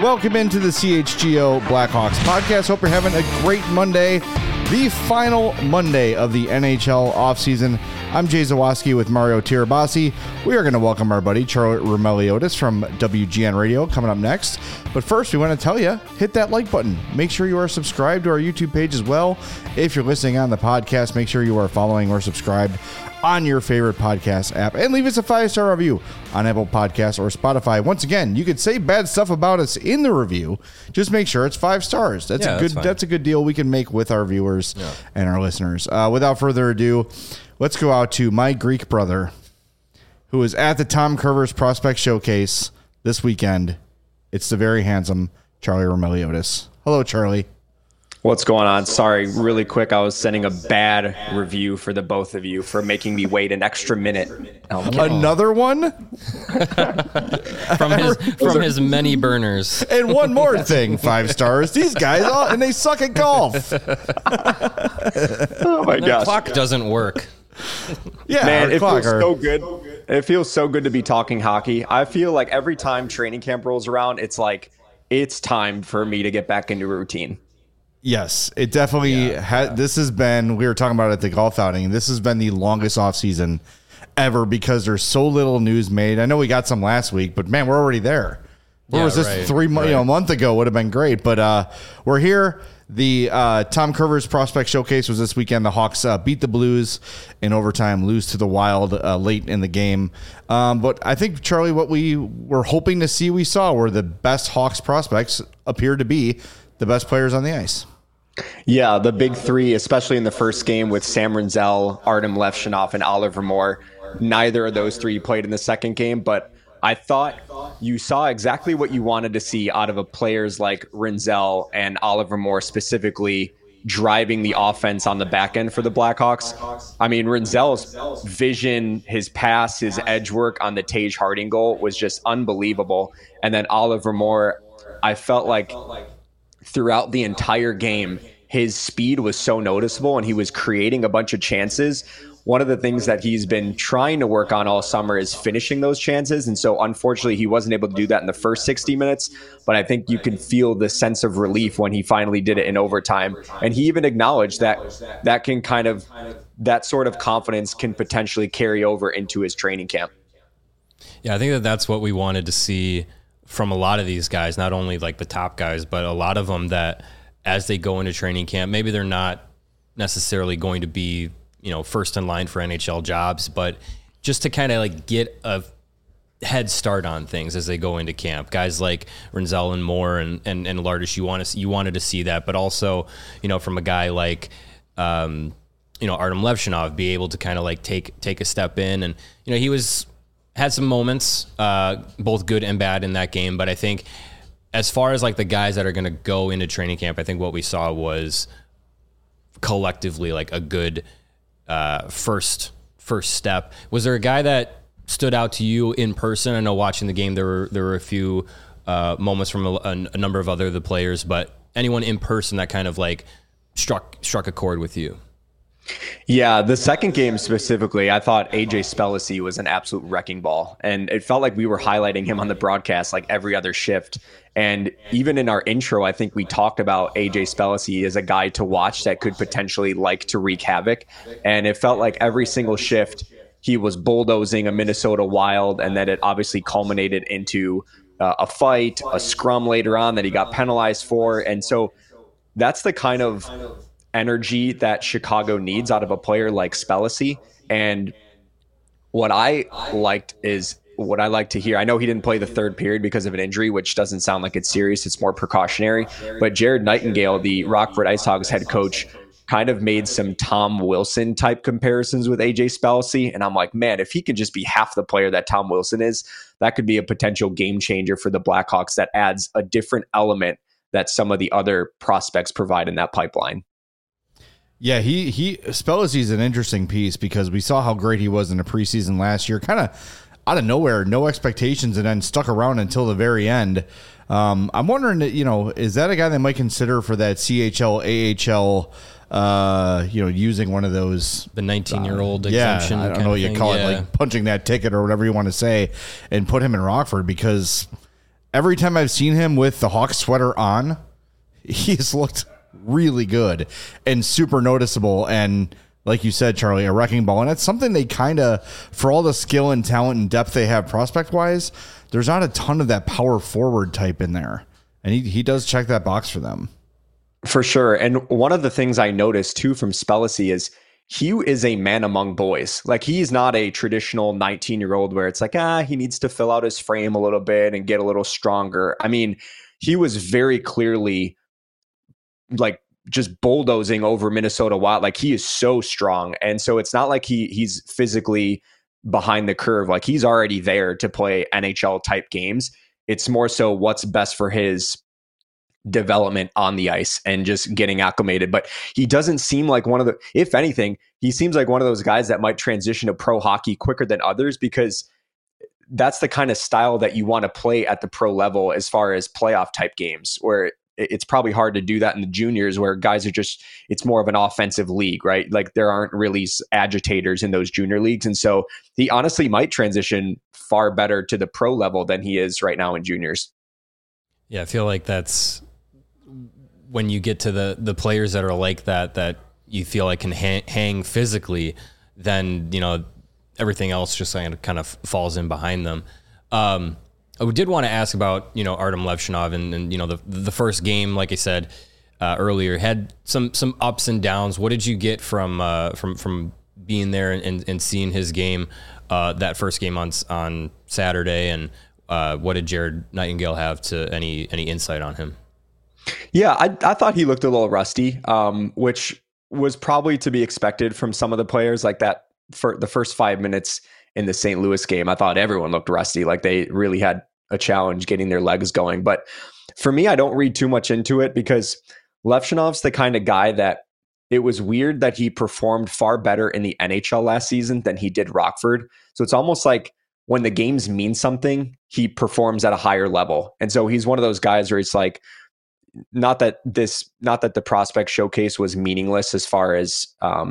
Welcome into the CHGO Blackhawks podcast. Hope you're having a great Monday, the final Monday of the NHL offseason. I'm Jay Zawaski with Mario Tirabassi. We are going to welcome our buddy Charlie Roumeliotis from WGN Radio coming up next. But first, we want to tell you, hit that like button. Make sure you are subscribed to our YouTube page as well. If you're listening on the podcast, make sure you are following or subscribed on your favorite podcast app, and leave us a 5-star review on Apple Podcasts or Spotify. Once again, you could say bad stuff about us in the review. Just make sure it's 5 stars. That's a good deal we can make with our viewers and our listeners. Without further ado, let's go out to my Greek brother, who is at the Tom Curvers Prospect Showcase this weekend. It's the very handsome Charlie Roumeliotis. Hello, Charlie. What's going on? Sorry, really quick. I was sending a bad review for the both of you for making me wait an extra minute. Another one? from his many burners. And one more thing, 5 stars. These guys, and they suck at golf. Oh my gosh. Clock doesn't work. Yeah, man, it feels so good. It feels so good to be talking hockey. I feel like every time training camp rolls around, it's like, it's time for me to get back into a routine. Yes, it definitely this has been, we were talking about it at the golf outing, this has been the longest off season ever because there's so little news made. I know we got some last week, but man, we're already there. Where was this 3 months, a month ago would have been great, but we're here. The Tom Curvers Prospect Showcase was this weekend. The Hawks beat the Blues in overtime, lose to the Wild late in the game. But I think, Charlie, what we were hoping to see, we saw were the best Hawks prospects appeared to be the best players on the ice. Yeah, the big three, especially in the first game with Sam Rinzel, Artem Levshunov, and Oliver Moore. Neither of those three played in the second game, but I thought you saw exactly what you wanted to see out of a players like Rinzel and Oliver Moore, specifically driving the offense on the back end for the Blackhawks. I mean, Rinzel's vision, his pass, his edge work on the Tage Harding goal was just unbelievable. And then Oliver Moore, I felt like throughout the entire game, his speed was so noticeable and he was creating a bunch of chances. One of the things that he's been trying to work on all summer is finishing those chances. And so unfortunately, he wasn't able to do that in the first 60 minutes. But I think you can feel the sense of relief when he finally did it in overtime. And he even acknowledged that that sort of confidence can potentially carry over into his training camp. Yeah, I think that's what we wanted to see from a lot of these guys, not only like the top guys, but a lot of them that as they go into training camp, maybe they're not necessarily going to be, first in line for NHL jobs, but just to kind of like get a head start on things as they go into camp. Guys like Rinzel and Moore and Lardish, you wanted to see that, but also, from a guy like, Artem Levshunov, be able to kind of like take a step in. And, he had some moments, both good and bad in that game. But I think as far as like the guys that are going to go into training camp, I think what we saw was collectively like a good first step. Was there a guy that stood out to you in person? I know watching the game, there were a few moments from a number of the players, but anyone in person that kind of like struck a chord with you? Yeah, the second game specifically, I thought AJ Spellacy was an absolute wrecking ball. And it felt like we were highlighting him on the broadcast like every other shift. And even in our intro, I think we talked about AJ Spellacy as a guy to watch that could potentially like to wreak havoc. And it felt like every single shift, he was bulldozing a Minnesota Wild. And then it obviously culminated into a fight, a scrum later on that he got penalized for. And so that's the kind of energy that Chicago needs out of a player like Spellacy. And what I like to hear, I know he didn't play the third period because of an injury, which doesn't sound like it's serious. It's more precautionary. But Jared Nightingale, the Rockford Ice Hogs head coach, kind of made some Tom Wilson type comparisons with AJ Spellacy. And I'm like, man, if he could just be half the player that Tom Wilson is, that could be a potential game changer for the Blackhawks that adds a different element that some of the other prospects provide in that pipeline. Yeah, Spellacy is an interesting piece because we saw how great he was in the preseason last year, kind of out of nowhere, no expectations, and then stuck around until the very end. I'm wondering, is that a guy they might consider for that CHL, AHL, using one of those, the 19-year-old exemption? I don't know what you call it, like punching that ticket or whatever you want to say, and put him in Rockford because every time I've seen him with the Hawks sweater on, he's looked really good and super noticeable. And like you said, Charlie, a wrecking ball. And that's something they kind of, for all the skill and talent and depth they have prospect wise, there's not a ton of that power forward type in there. And he does check that box for them. For sure. And one of the things I noticed too from Spellacy is he is a man among boys. Like, he's not a traditional 19-year-old where it's like, he needs to fill out his frame a little bit and get a little stronger. I mean, he was very clearly like just bulldozing over Minnesota Wild. Like, he is so strong. And so it's not like he's physically behind the curve. Like, he's already there to play NHL type games. It's more so what's best for his development on the ice and just getting acclimated. But he doesn't seem like one of the, if anything, he seems like one of those guys that might transition to pro hockey quicker than others, because that's the kind of style that you want to play at the pro level as far as playoff type games, where it's probably hard to do that in the juniors, where guys are just, it's more of an offensive league, right? Like, there aren't really agitators in those junior leagues. And so he honestly might transition far better to the pro level than he is right now in juniors. Yeah, I feel like that's when you get to the players that are like that you feel like can hang physically, then, everything else just kind of falls in behind them. I did want to ask about, Artem Levshunov and the first game, like I said earlier, had some ups and downs. What did you get from being there and seeing his game, that first game on Saturday, and what did Jared Nightingale have to any insight on him? Yeah, I thought he looked a little rusty, which was probably to be expected from some of the players. Like that, for the first 5 minutes in the St. Louis game, I thought everyone looked rusty. Like, they really had a challenge getting their legs going. But for me, I don't read too much into it, because Levshunov's the kind of guy that it was weird that he performed far better in the NHL last season than he did Rockford. So it's almost like when the games mean something, he performs at a higher level. And so he's one of those guys where it's like, not that the prospect showcase was meaningless as far as,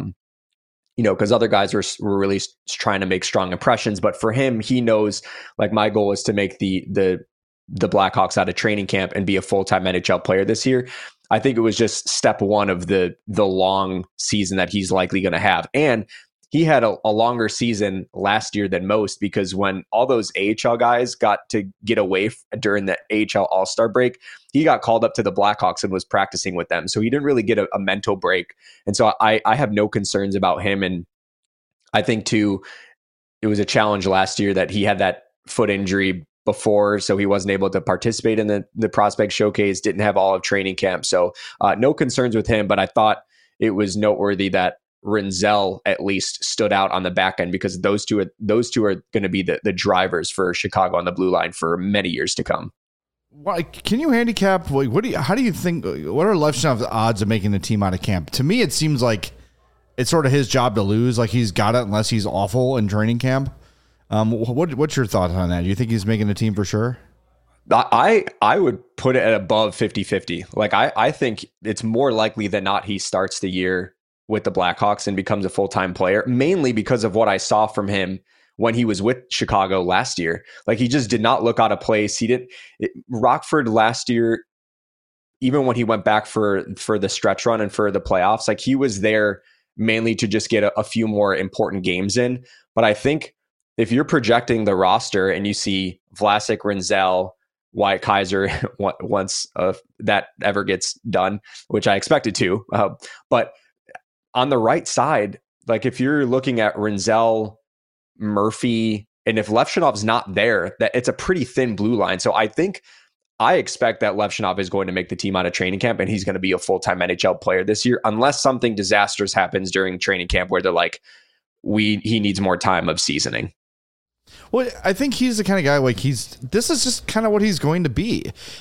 because other guys were really trying to make strong impressions. But for him, he knows, like, my goal is to make the Blackhawks out of training camp and be a full-time NHL player this year. I think it was just step one of the long season that he's likely going to have. And he had a longer season last year than most, because when all those AHL guys got to get away during the AHL All-Star break, he got called up to the Blackhawks and was practicing with them. So he didn't really get a mental break. And so I have no concerns about him. And I think too, it was a challenge last year that he had that foot injury before, so he wasn't able to participate in the prospect showcase, didn't have all of training camp. So no concerns with him, but I thought it was noteworthy that Rinzel at least stood out on the back end, because those two are going to be the drivers for Chicago on the blue line for many years to come. Why, can you handicap? How do you think? What are Levshunov's odds of making the team out of camp? To me, it seems like it's sort of his job to lose. Like, he's got it unless he's awful in training camp. What's your thoughts on that? Do you think he's making the team for sure? I would put it at above 50-50. Like, I think it's more likely than not he starts the year with the Blackhawks and becomes a full-time player, mainly because of what I saw from him when he was with Chicago last year. Like, he just did not look out of place. Rockford last year, even when he went back for the stretch run and for the playoffs, like, he was there mainly to just get a few more important games in. But I think if you're projecting the roster and you see Vlasic, Rinzel, Wyatt Kaiser, once that ever gets done, which I expect it to, but on the right side, like, if you're looking at Rinzel, Murphy, and if Levshunov's not there, that it's a pretty thin blue line. So I expect that Levshunov is going to make the team out of training camp, and he's going to be a full-time NHL player this year, unless something disastrous happens during training camp where they're like, he needs more time of seasoning. Well, I think he's the kind of guy, like, this is just kind of what he's going to be.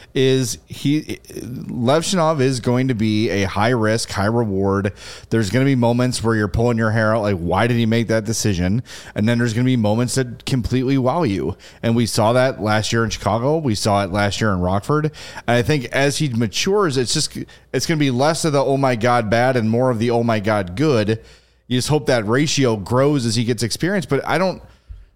Levshunov is going to be a high risk, high reward. There's going to be moments where you're pulling your hair out, like, why did he make that decision? And then there's going to be moments that completely wow you. And we saw that last year in Chicago. We saw it last year in Rockford. And I think as he matures, it's going to be less of the, oh my God, bad, and more of the, oh my God, good. You just hope that ratio grows as he gets experience. But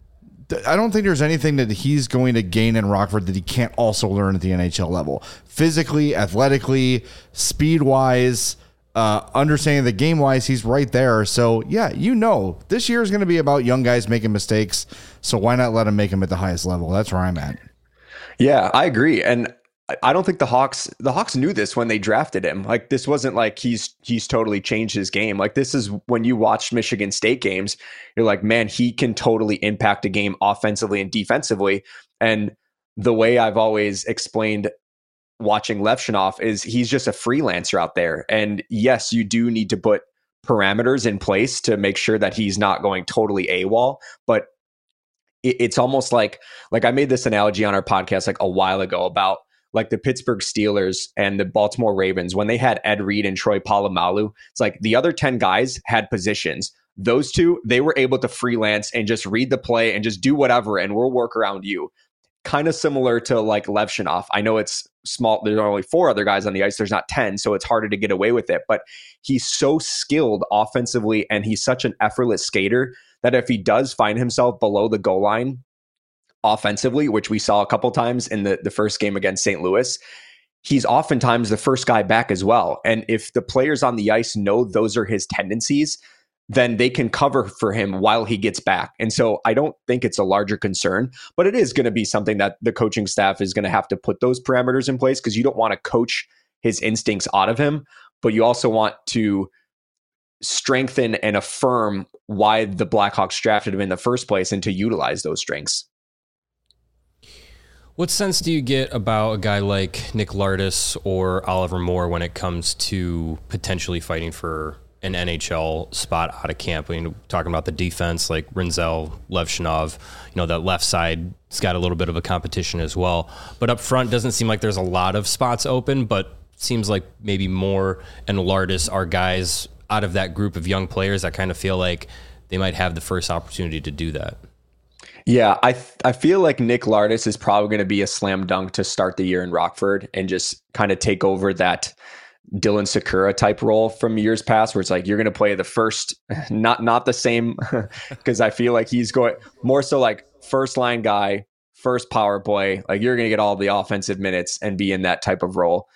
I don't think there's anything that he's going to gain in Rockford that he can't also learn at the NHL level. Physically, athletically, speed-wise, understanding the game-wise, he's right there. So, yeah, this year is going to be about young guys making mistakes, so why not let him make them at the highest level? That's where I'm at. Yeah, I agree. And I don't think the Hawks knew this when they drafted him. Like, this wasn't like he's totally changed his game. Like, this is when you watch Michigan State games, you're like, man, he can totally impact a game offensively and defensively. And the way I've always explained watching Levshunov is he's just a freelancer out there. And yes, you do need to put parameters in place to make sure that he's not going totally AWOL, but it's almost like I made this analogy on our podcast like a while ago about like the Pittsburgh Steelers and the Baltimore Ravens, when they had Ed Reed and Troy Polamalu, it's like the other 10 guys had positions. Those two, they were able to freelance and just read the play and just do whatever, and we'll work around you. Kind of similar to like Levshunov. I know it's small. There's only 4 other guys on the ice. There's not 10, so it's harder to get away with it. But he's so skilled offensively, and he's such an effortless skater that if he does find himself below the goal line offensively, which we saw a couple times in the first game against St. Louis, he's oftentimes the first guy back as well. And if the players on the ice know those are his tendencies, then they can cover for him while he gets back. And so I don't think it's a larger concern, but it is going to be something that the coaching staff is going to have to put those parameters in place, because you don't want to coach his instincts out of him, but you also want to strengthen and affirm why the Blackhawks drafted him in the first place and to utilize those strengths. What sense do you get about a guy like Nick Lardis or Oliver Moore when it comes to potentially fighting for an NHL spot out of camp? I mean, talking about the defense, like Rinzel, Levshunov, that left side's got a little bit of a competition as well. But up front, doesn't seem like there's a lot of spots open, but seems like maybe Moore and Lardis are guys out of that group of young players that kind of feel like they might have the first opportunity to do that. Yeah, I feel like Nick Lardis is probably going to be a slam dunk to start the year in Rockford and just kind of take over that Dylan Sakura type role from years past, where it's like you're going to play the first, not the same, because I feel like he's going more so like first line guy, first power play, like you're going to get all the offensive minutes and be in that type of role.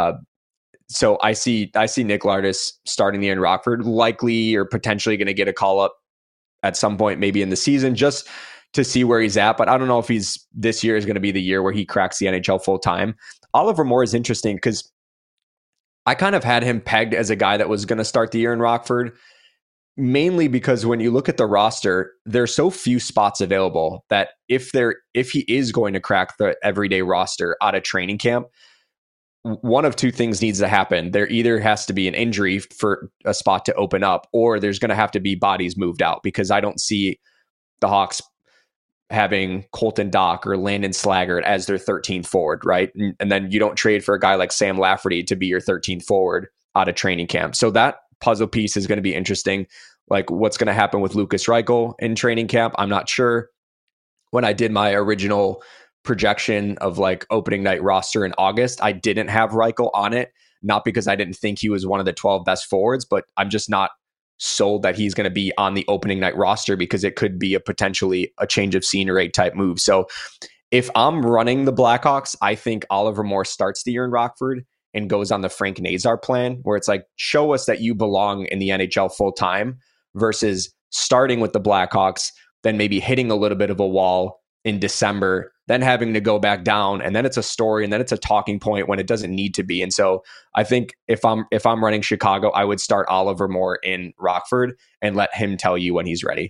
So I see Nick Lardis starting the year in Rockford, likely or potentially going to get a call up at some point, maybe in the season, just to see where he's at. But I don't know if this year is going to be the year where he cracks the NHL full time. Oliver Moore is interesting because I kind of had him pegged as a guy that was going to start the year in Rockford, mainly because when you look at the roster, there's so few spots available that if he is going to crack the everyday roster out of training camp, one of two things needs to happen. There either has to be an injury for a spot to open up, or there's going to have to be bodies moved out, because I don't see the Hawks having Colton Dock or Landon Slaggert as their 13th forward, right? And then you don't trade for a guy like Sam Lafferty to be your 13th forward out of training camp. So that puzzle piece is going to be interesting. Like, what's going to happen with Lukas Reichel in training camp? I'm not sure. When I did my original projection of like opening night roster in August, I didn't have Reichel on it, not because I didn't think he was one of the 12 best forwards, but I'm just not sold that he's going to be on the opening night roster, because it could be potentially a change of scenery type move. So if I'm running the Blackhawks, I think Oliver Moore starts the year in Rockford and goes on the Frank Nazar plan, where it's like, show us that you belong in the NHL full time, versus starting with the Blackhawks, then maybe hitting a little bit of a wall in December, then having to go back down, and then it's a story, and then it's a talking point when it doesn't need to be. And so I think if I'm running Chicago, I would start Oliver Moore in Rockford and let him tell you when he's ready.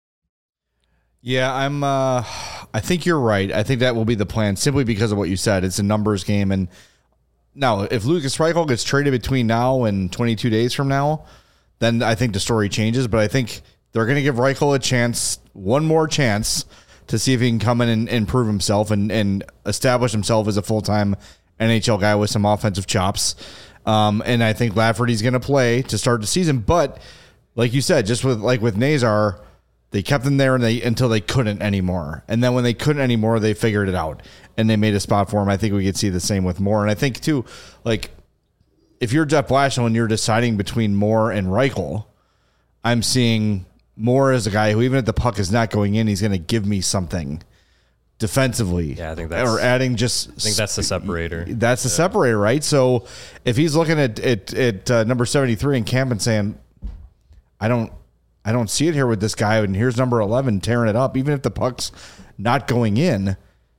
Yeah, I think you're right. I think that will be the plan, simply because of what you said. It's a numbers game. And now if Lukas Reichel gets traded between now and 22 days from now, then I think the story changes. But I think they're going to give Reichel a chance, one more chance, to see if he can come in and prove himself and establish himself as a full-time NHL guy with some offensive chops. And I think Lafferty's going to play to start the season. But like you said, just with Nazar, they kept him there until they couldn't anymore. And then when they couldn't anymore, they figured it out and they made a spot for him. I think we could see the same with Moore. And I think too, like, if you're Jeff Blashill and you're deciding between Moore and Reichel, I'm seeing Moore is a guy who, even if the puck is not going in, he's going to give me something defensively. Yeah, I think that's, or adding I think that's the separator. That's the separator, right? So if he's looking at number 73 in camp and saying, I don't see it here with this guy, and here's number 11 tearing it up, even if the puck's not going in,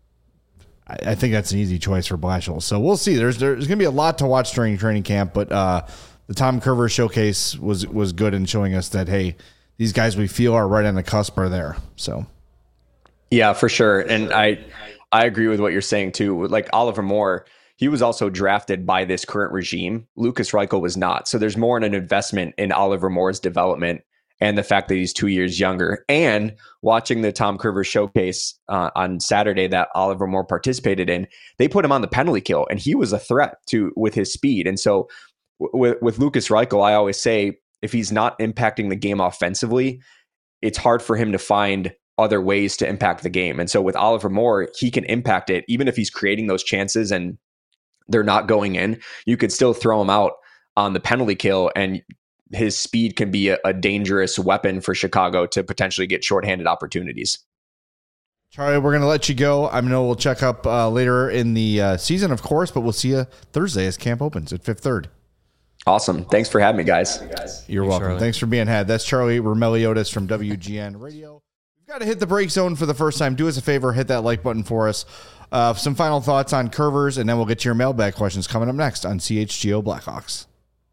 I think that's an easy choice for Blashill. So we'll see. There's going to be a lot to watch during training camp, but the Tom Curver showcase was good in showing us that, hey, these guys we feel are right on the cusp are there. So, yeah, for sure. And I agree with what you're saying too. Like Oliver Moore, he was also drafted by this current regime. Lukas Reichel was not. So there's more in an investment in Oliver Moore's development and the fact that he's 2 years younger. And watching the Tom Curver showcase on Saturday that Oliver Moore participated in, they put him on the penalty kill, and he was a threat with his speed. And so with Lukas Reichel, I always say if he's not impacting the game offensively, it's hard for him to find other ways to impact the game. And so with Oliver Moore, he can impact it, even if he's creating those chances and they're not going in. You could still throw him out on the penalty kill, and his speed can be a dangerous weapon for Chicago to potentially get shorthanded opportunities. Charlie, we're going to let you go. I know we'll check up later in the season, of course, but we'll see you Thursday as camp opens at Fifth Third. Awesome. Thanks for having me, guys. You're welcome. Charlie. Thanks for being had. That's Charlie Romeliotis from WGN Radio. You've got to hit the break zone for the first time. Do us a favor, hit that like button for us. Some final thoughts on Curvers, and then we'll get to your mailbag questions coming up next on CHGO Blackhawks.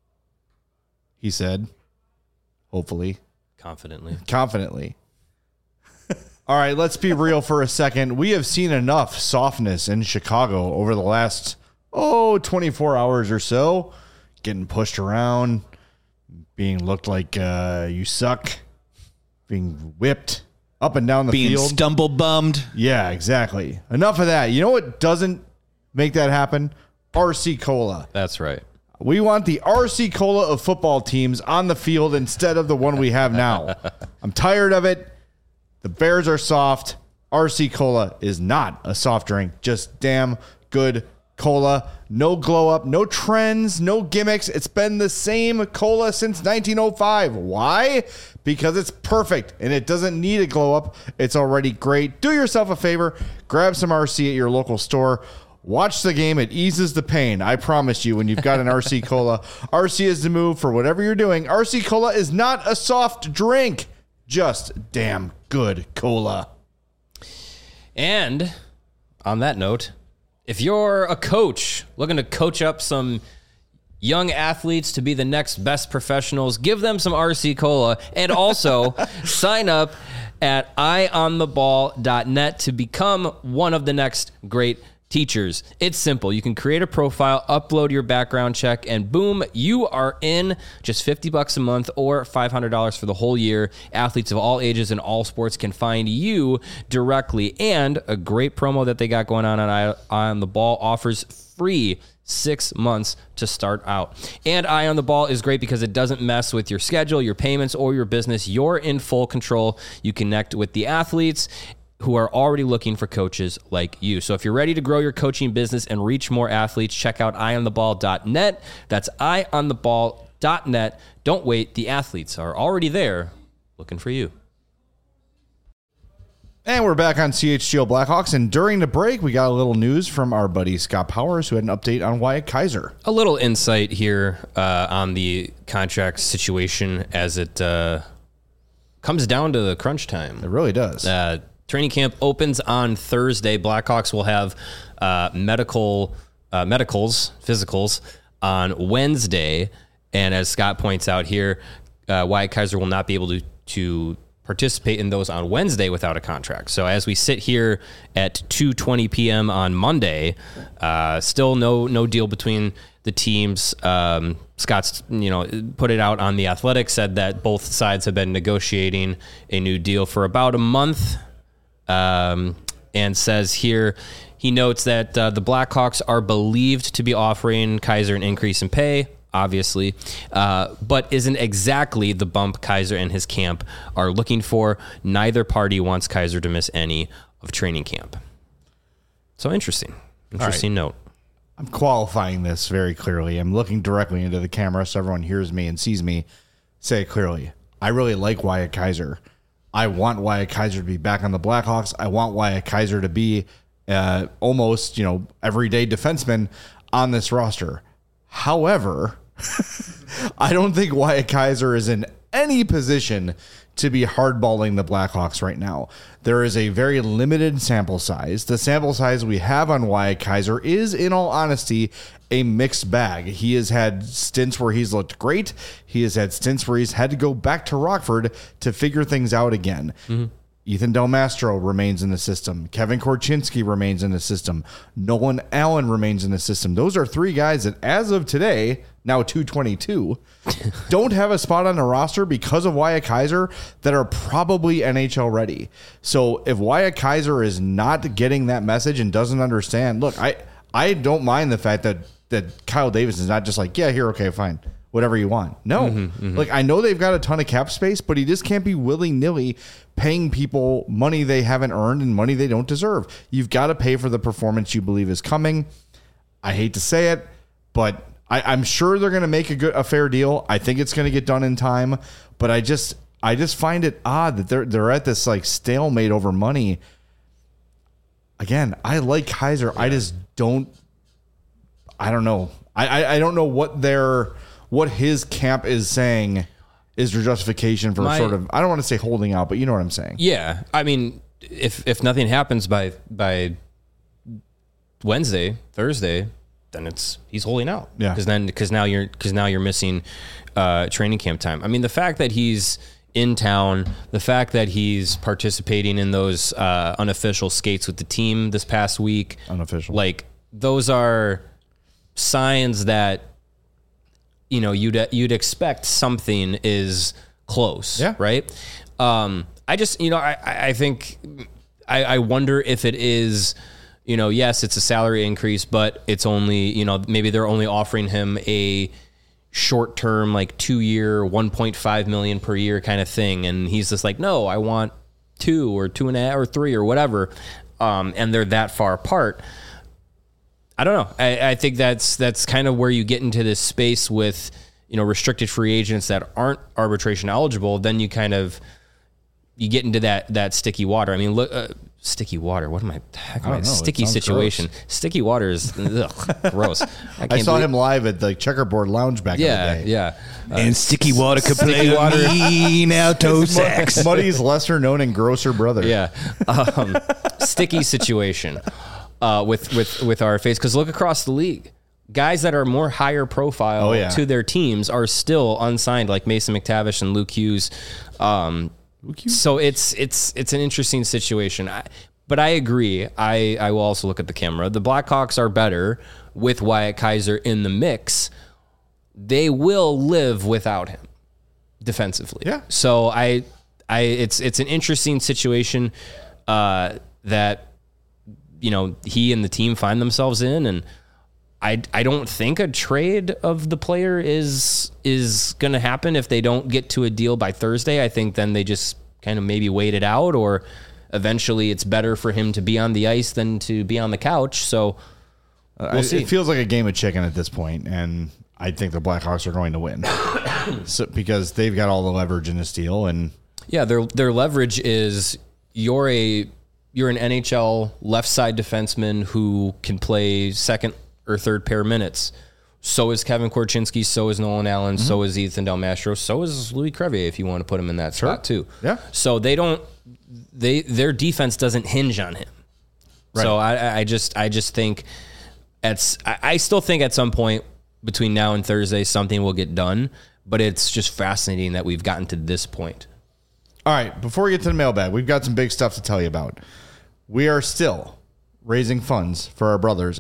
He said, hopefully. Confidently. All right, let's be real for a second. We have seen enough softness in Chicago over the last, 24 hours or so. Getting pushed around, being looked like you suck, being whipped up and down the field. Being stumble bummed. Yeah, exactly. Enough of that. You know what doesn't make that happen? RC Cola. That's right. We want the RC Cola of football teams on the field instead of the one we have now. I'm tired of it. The Bears are soft. RC Cola is not a soft drink. Just damn good cola. No glow up, no trends, no gimmicks. It's been the same cola since 1905. Why? Because it's perfect and it doesn't need a glow up. It's already great. Do yourself a favor. Grab some RC at your local store. Watch the game. It eases the pain. I promise you, when you've got an RC Cola, RC is the move for whatever you're doing. RC Cola is not a soft drink. Just damn good cola. And on that note, if you're a coach looking to coach up some young athletes to be the next best professionals, give them some RC Cola, and also sign up at eyeontheball.net to become one of the next great teachers. It's simple. You can create a profile, upload your background check, and boom, you are in. Just $50 a month or $500 for the whole year. Athletes of all ages and all sports can find you directly. And a great promo that they got going on Eye on the Ball offers free 6 months to start out. And Eye on the Ball is great because it doesn't mess with your schedule, your payments, or your business. You're in full control. You connect with the athletes who are already looking for coaches like you. So if you're ready to grow your coaching business and reach more athletes, check out eyeontheball.net. That's eyeontheball.net. Don't wait. The athletes are already there looking for you. And we're back on CHGO Blackhawks. And during the break, we got a little news from our buddy Scott Powers, who had an update on Wyatt Kaiser. A little insight here on the contract situation as it comes down to the crunch time. It really does. Training camp opens on Thursday. Blackhawks will have physicals on Wednesday. And as Scott points out here, Wyatt Kaiser will not be able to participate in those on Wednesday without a contract. So as we sit here at 2:20 p.m. on Monday, still no deal between the teams. Scott's put it out on The Athletic, said that both sides have been negotiating a new deal for about a month. And says here, he notes that the Blackhawks are believed to be offering Kaiser an increase in pay, obviously, but isn't exactly the bump Kaiser and his camp are looking for. Neither party wants Kaiser to miss any of training camp. So interesting note. I'm qualifying this very clearly. I'm looking directly into the camera so everyone hears me and sees me. Say it clearly. I really like Wyatt Kaiser. I want Wyatt Kaiser to be back on the Blackhawks. I want Wyatt Kaiser to be almost, everyday defenseman on this roster. However, I don't think Wyatt Kaiser is in any position to be hardballing the Blackhawks right now. There is a very limited sample size. The sample size we have on Wyatt Kaiser is, in all honesty, a mixed bag. He has had stints where he's looked great. He has had stints where he's had to go back to Rockford to figure things out again. Mm-hmm. Ethan Del Mastro remains in the system. Kevin Korchinski remains in the system. Nolan Allen remains in the system. Those are three guys that, as of today, now 222, don't have a spot on the roster because of Wyatt Kaiser that are probably NHL ready. So if Wyatt Kaiser is not getting that message and doesn't understand, look, I don't mind the fact that Kyle Davis is not just like, yeah, here, okay, fine, whatever you want. No, like I know they've got a ton of cap space, but he just can't be willy-nilly paying people money they haven't earned and money they don't deserve. You've got to pay for the performance you believe is coming. I hate to say it, but I'm sure they're going to make a fair deal. I think it's going to get done in time, but I just find it odd that they're at this like stalemate over money. Again, I like Kaiser. Yeah. I just don't. I don't know. I don't know what his camp is saying is their justification for sort of, I don't want to say holding out, but you know what I'm saying. Yeah. I mean, if nothing happens by Wednesday, Thursday, then he's holding out. Yeah. Because now you're missing training camp time. I mean, the fact that he's in town, the fact that he's participating in those unofficial skates with the team this past week, unofficial, like those are signs that you'd expect something is close. Yeah. Right. I just I think I wonder if it is. Yes, it's a salary increase, but it's only, maybe they're only offering him a short-term, like 2-year, $1.5 million per year kind of thing. And he's just like, no, I want 2 or 2.5 or 3 or whatever. And they're that far apart. I don't know. I think that's kind of where you get into this space with, restricted free agents that aren't arbitration eligible. Then you get into that sticky water. I mean, look, sticky water. What am I? Sticky situation. Gross. Sticky water is gross. I saw him live at the Checkerboard Lounge back in the day. Yeah. And sticky water could play mean alto sax. Muddy's lesser known and grosser brother. Yeah. Sticky situation with our face. Because look across the league. Guys that are more higher profile to their teams are still unsigned, like Mason McTavish and Luke Hughes. So it's an interesting situation. But I agree. I will also look at the camera. The Blackhawks are better with Wyatt Kaiser in the mix. They will live without him defensively. Yeah. So it's an interesting situation that he and the team find themselves in, and I don't think a trade of the player is going to happen if they don't get to a deal by Thursday. I think then they just kind of maybe wait it out, or eventually it's better for him to be on the ice than to be on the couch. So we'll see. It feels like a game of chicken at this point, and I think the Blackhawks are going to win because they've got all the leverage in this deal. And yeah, their leverage is you're an NHL left side defenseman who can play second or third pair minutes. So is Kevin Korchinski, so is Nolan Allen, so is Ethan Del Mastro, so is Louis Crevier if you want to put him in that spot too. Yeah. So their defense doesn't hinge on him. Right. So I just think I still think at some point between now and Thursday something will get done, but it's just fascinating that we've gotten to this point. All right, before we get to the mailbag, we've got some big stuff to tell you about. We are still raising funds for our friends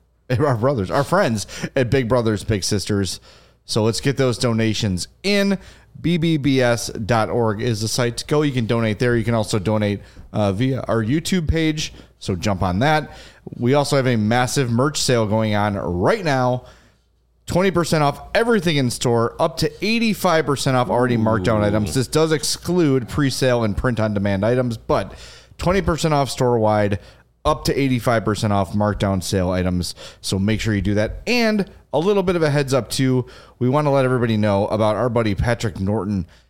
at Big Brothers Big Sisters. So let's get those donations in. BBBS.org is the site to go. You can donate there. You can also donate via our YouTube page. So jump on that. We also have a massive merch sale going on right now. 20% off everything in store, up to 85% off already marked down items. This does exclude pre-sale and print-on-demand items, but 20% off store-wide, up to 85% off markdown sale items. So make sure you do that. And a little bit of a heads up too, we want to let everybody know about our buddy Patrick Norton.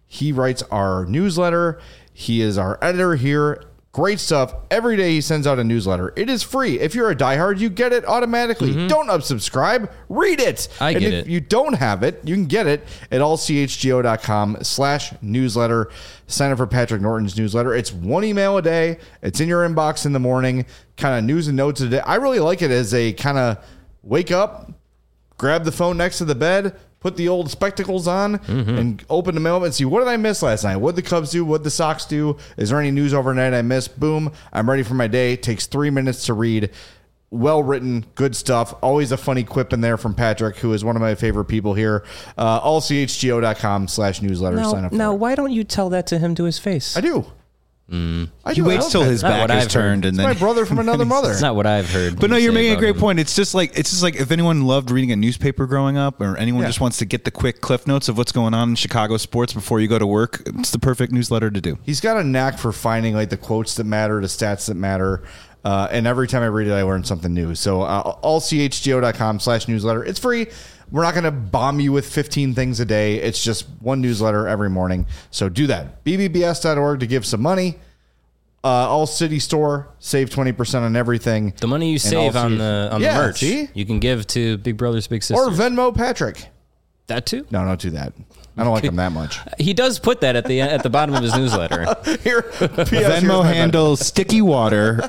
He writes our newsletter. He is our editor here. Great stuff. Every day he sends out a newsletter. It is free. If you're a diehard, you get it automatically. Don't unsubscribe. Read it. And if you don't have it, you can get it at allchgo.com/newsletter. Sign up for Patrick Norton's newsletter. It's one email a day. It's in your inbox in the morning. Kind of news and notes of the day. I really like it as a kind of wake up, grab the phone next to the bed, put the old spectacles on, and open the mail and see, what did I miss last night? What did the Cubs do? What did the Sox do? Is there any news overnight I missed? Boom. I'm ready for my day. It takes 3 minutes to read. Well written, good stuff. Always a funny quip in there from Patrick, who is one of my favorite people here. allchgo.com/newsletter. Sign up for Now, it. why don't you tell that to him to his face? I do. He waits till his back is turned, and It's then my brother from another mother. It's not what I've heard. But no, you you're say making a about great him. point. It's just like if anyone loved reading a newspaper growing up, or anyone Yeah. just wants to get the quick cliff notes of what's going on in Chicago sports before you go to work, it's the perfect newsletter to do. He's got a knack for finding like the quotes that matter, the stats that matter. And every time I read it, I learn something new. So allchgo.com/newsletter. It's free. We're not going to bomb you with 15 things a day. It's just one newsletter every morning. So do that. bbbs.org to give some money. All City Store, save 20% on everything. The money you And save also- on the Yeah, merch, see? you can give to Big Brothers Big Sisters. Or Venmo Patrick. that too. No, don't do that. I don't like him that much. He does put that at the bottom of his newsletter. Here, Venmo handle sticky water.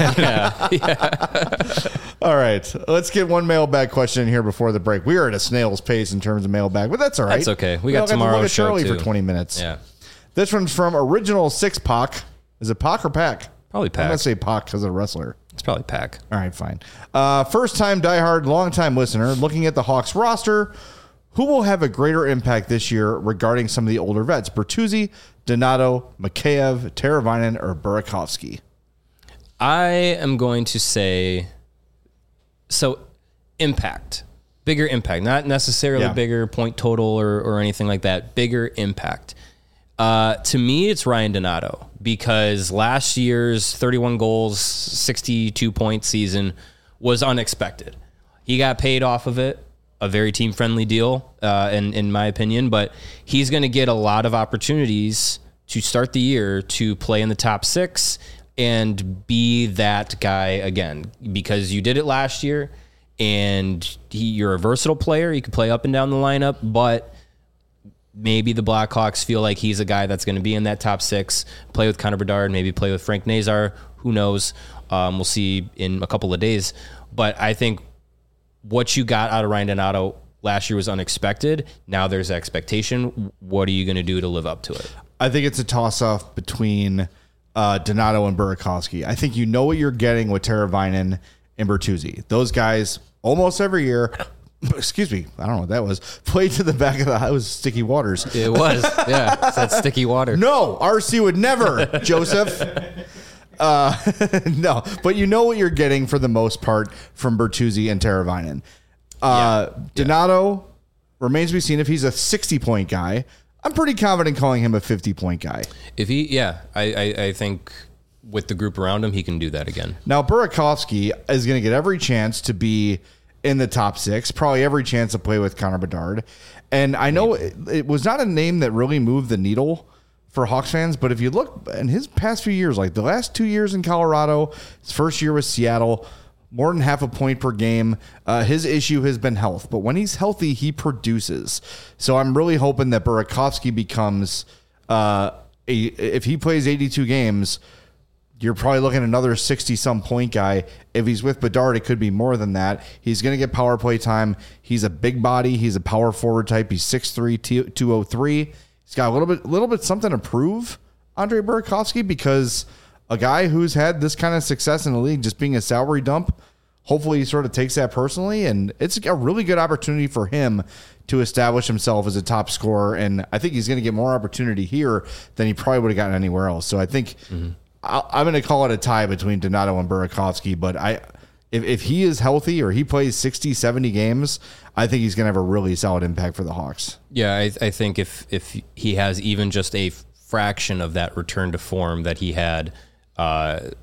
All right, let's get one mailbag question in here before the break. We are at a snail's pace in terms of mailbag, but that's all right. That's okay. We don't got have to look tomorrow's at show Charlie too. for 20 minutes. Yeah, This one's from Original Six Pac. Is it Pac or Pac? probably I'm going to Pack. say Pac because of the wrestler. It's probably Pack. All right, fine. First time diehard, long time listener, looking at the Hawks roster, who will have a greater impact this year regarding some of the older vets? Bertuzzi, Donato, Mikheyev, Teravainen, or Burakovsky? I am going to say impact, bigger impact, not necessarily Yeah. bigger point total or anything like that. Bigger impact. To me, it's Ryan Donato, because last year's 31 goals, 62 point season was unexpected. He got paid off of it, a very team friendly deal, in my opinion, but he's going to get a lot of opportunities to start the year to play in the top six and be that guy again, because you did it last year, and you're a versatile player. You can play up and down the lineup, but maybe the Blackhawks feel like he's a guy that's going to be in that top six, play with Connor Bedard, maybe play with Frank Nazar. Who knows? We'll see in a couple of days. But I think what you got out of Ryan Donato last year was unexpected. Now there's expectation. What are you going to do to live up to it? I think it's a toss-off between Donato and Burakovsky. I think you know what you're getting with Teravainen and Bertuzzi. Those guys almost every year, excuse me, I don't know what that was, played to the back of the house, sticky waters. It was. Yeah. It's that sticky water. No, RC would never, Joseph. No, but you know what you're getting for the most part from Bertuzzi and Teravainen. Donato remains to be seen if he's a 60-point guy. I'm pretty confident calling him a 50-point guy. If I think with the group around him, he can do that again. Now, Burakovsky is going to get every chance to be in the top six, probably every chance to play with Connor Bedard. And I know it was not a name that really moved the needle for Hawks fans, but if you look in his past few years, like the last 2 years in Colorado, his first year with Seattle, more than half a point per game. His issue has been health, but when he's healthy, he produces. So I'm really hoping that Burakovsky becomes, if he plays 82 games, you're probably looking at another 60-some point guy. If he's with Bedard, it could be more than that. He's going to get power play time. He's a big body. He's a power forward type. He's 6'3", 203. He's got a little bit something to prove, Andre Burakovsky, because a guy who's had this kind of success in the league just being a salary dump, hopefully he sort of takes that personally, and it's a really good opportunity for him to establish himself as a top scorer, and I think he's going to get more opportunity here than he probably would have gotten anywhere else. So I think I'm going to call it a tie between Donato and Burakovsky, but if he is healthy or he plays 60, 70 games, I think he's going to have a really solid impact for the Hawks. Yeah, I think if he has even just a fraction of that return to form that he had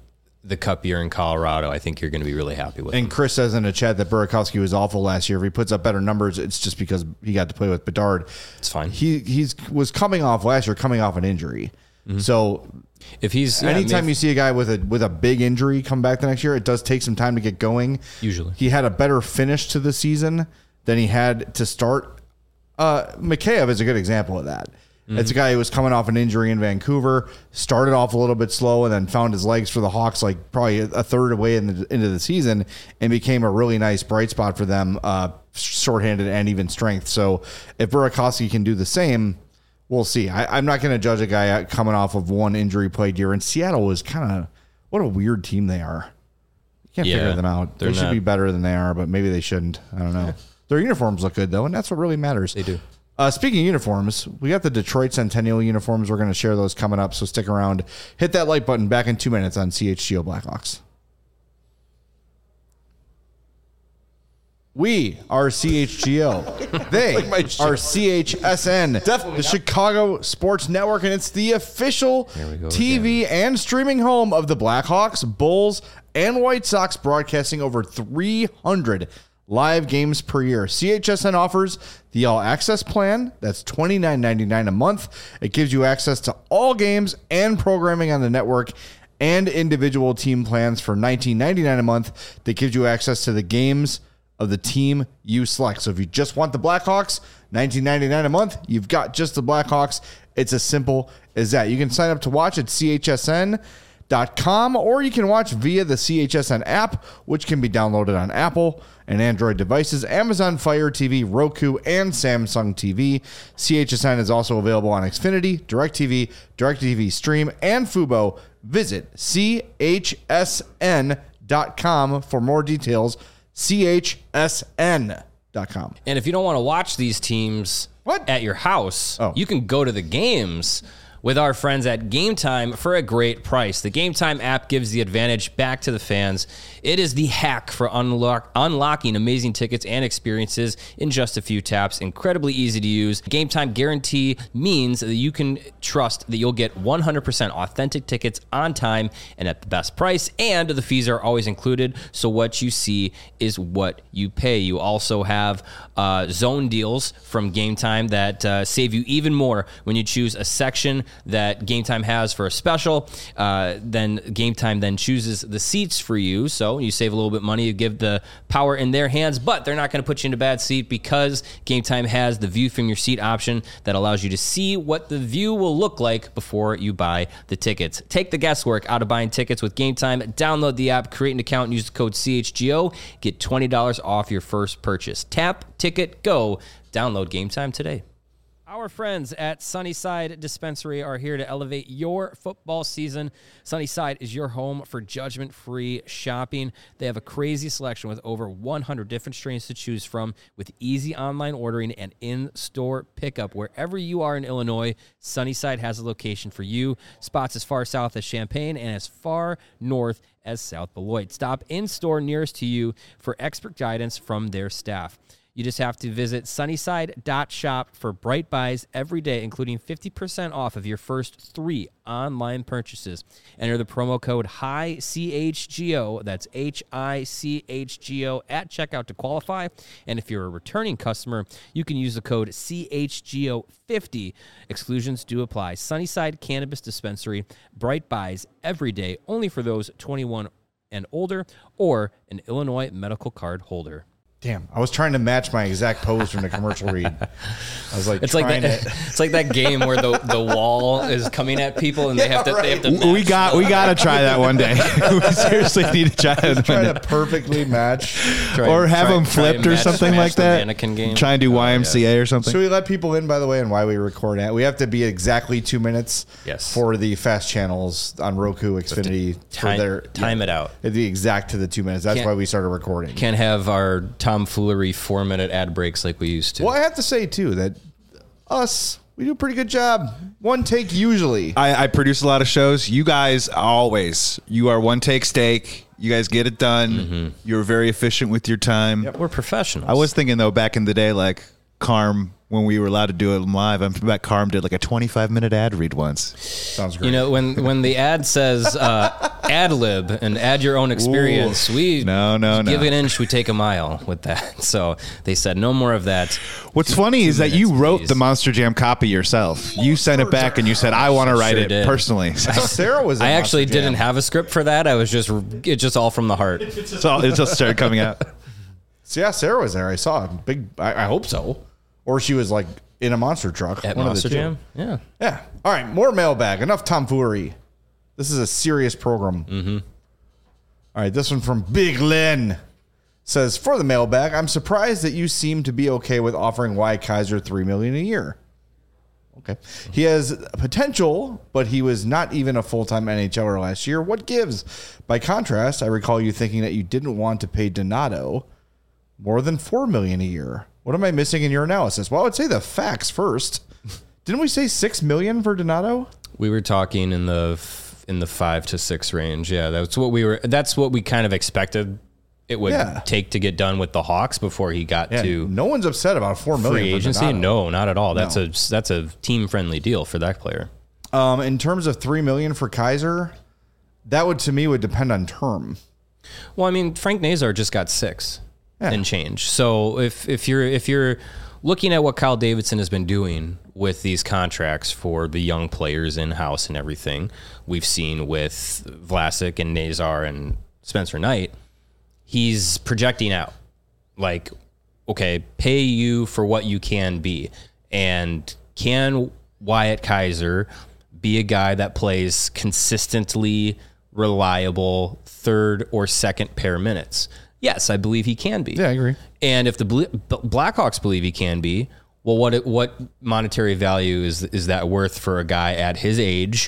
the Cup year in Colorado, I think you're going to be really happy with. And Chris says in the chat that Burakovsky was awful last year. If he puts up better numbers, it's just because he got to play with Bedard. It's fine. He was coming off last year, coming off an injury. Mm-hmm. So if he's anytime you see a guy with a big injury come back the next year, it does take some time to get going. Usually, he had a better finish to the season than he had to start. Mikheyev is a good example of that. Mm-hmm. It's a guy who was coming off an injury in Vancouver, started off a little bit slow, and then found his legs for the Hawks like probably a third away into the season, and became a really nice bright spot for them, shorthanded and even strength. So if Burakovsky can do the same, we'll see. I'm not going to judge a guy coming off of one injury played year. And Seattle is kind of what a weird team they are. You can't figure them out. They should be better than they are, but maybe they shouldn't. I don't know. Their uniforms look good though, and that's what really matters. They do. Speaking of uniforms, we got the Detroit Centennial uniforms. We're going to share those coming up, so stick around. Hit that like button. Back in 2 minutes on CHGO Blackhawks. We are CHGO. They are CHSN, the Chicago Sports Network, and it's the official TV and streaming home of the Blackhawks, Bulls, and White Sox, broadcasting over 300 live games per year. CHSN offers the All Access plan. That's $29.99 a month. It gives you access to all games and programming on the network, and individual team plans for $19.99 a month that gives you access to the games of the team you select. So if you just want the Blackhawks, $19.99 a month, you've got just the Blackhawks. It's as simple as that. You can sign up to watch at CHSN.com, or you can watch via the CHSN app, which can be downloaded on Apple and Android devices, Amazon Fire TV, Roku, and Samsung TV. CHSN is also available on Xfinity, DirecTV, DirecTV Stream, and Fubo. Visit CHSN.com for more details. CHSN.com. And if you don't want to watch these teams at your house, you can go to the games with our friends at Game Time for a great price. The Game Time app gives the advantage back to the fans. It is the hack for unlocking amazing tickets and experiences in just a few taps. Incredibly easy to use. Game Time guarantee means that you can trust that you'll get 100% authentic tickets on time and at the best price, and the fees are always included, so what you see is what you pay. You also have zone deals from Game Time that save you even more when you choose a section that Game Time has for a special. Then Game Time then chooses the seats for you, so you save a little bit of money. You give the power in their hands, but they're not going to put you in a bad seat because Game Time has the view from your seat option that allows you to see what the view will look like before you buy the tickets. Take the guesswork out of buying tickets with Game Time. Download the app, create an account, and use the code CHGO. Get $20 off your first purchase. Tap, ticket, go. Download Game Time today. Our friends at Sunnyside Dispensary are here to elevate your football season. Sunnyside is your home for judgment-free shopping. They have a crazy selection with over 100 different strains to choose from, with easy online ordering and in-store pickup. Wherever you are in Illinois, Sunnyside has a location for you. Spots as far south as Champaign and as far north as South Beloit. Stop in-store nearest to you for expert guidance from their staff. You just have to visit sunnyside.shop for bright buys every day, including 50% off of your first 3 online purchases. Enter the promo code HICHGO, that's HICHGO, at checkout to qualify. And if you're a returning customer, you can use the code CHGO50. Exclusions do apply. Sunnyside Cannabis Dispensary, bright buys every day, only for those 21 and older or an Illinois medical card holder. Damn, I was trying to match my exact pose from the commercial read. I was like, it's like that game where the wall is coming at people and they have to. We got to try that one day. We seriously need to try it. Try to perfectly match, or have them flipped or something like that. Mannequin game. Try and do YMCA or something. Should we let people in, by the way, and why we record it? We have to be exactly 2 minutes. Yes. For the fast channels on Roku, Xfinity, time it out. It'd be exact to the 2 minutes. That's why we started recording. Can't have our tomfoolery 4-minute ad breaks like we used to. Well, I have to say too that we do a pretty good job. One take usually. I produce a lot of shows. You guys you are one take steak. You guys get it done. Mm-hmm. You're very efficient with your time. Yep. We're professionals. I was thinking though, back in the day, like Carm, when we were allowed to do it live, I bet Carm did like a 25-minute ad read once. Sounds great. You know, when the ad says ad lib and add your own experience. No. Give an inch, we take a mile with that. So they said no more of that. What's funny is that you wrote the Monster Jam copy yourself. You sent it back and you said, I want to write it personally. Sarah was. I actually didn't have a script for that. It's just all from the heart. It just started coming out. So yeah, Sarah was there. I saw a big. I hope so, or she was like in a monster truck At one Monster of the two. Jam. Yeah. Yeah. All right, more mailbag. Enough tomfoolery. This is a serious program. Mm-hmm. All right, this one from Big Len says, for the mailbag, I'm surprised that you seem to be okay with offering Wyatt Kaiser $3 million a year. Okay. He has potential, but he was not even a full-time NHLer last year. What gives? By contrast, I recall you thinking that you didn't want to pay Donato more than $4 million a year. What am I missing in your analysis? Well, I would say the facts first. Didn't we say $6 million for Donato? We were talking in the 5 to 6 range. Yeah, that's what we kind of expected it would take to get done with the Hawks before he got to. No one's upset about $4 million free agency. No, not at all. That's a team friendly deal for that player. In terms of $3 million for Kaiser, that would depend on term. Well, I mean, Frank Nazar just got 6 and change. So if you're looking at what Kyle Davidson has been doing with these contracts for the young players in-house and everything we've seen with Vlasic and Nazar and Spencer Knight, he's projecting out. Like, okay, pay you for what you can be. And can Wyatt Kaiser be a guy that plays consistently reliable third or second pair minutes? Yes, I believe he can be. Yeah, I agree. And if the Blackhawks believe he can be, well, what monetary value is that worth for a guy at his age,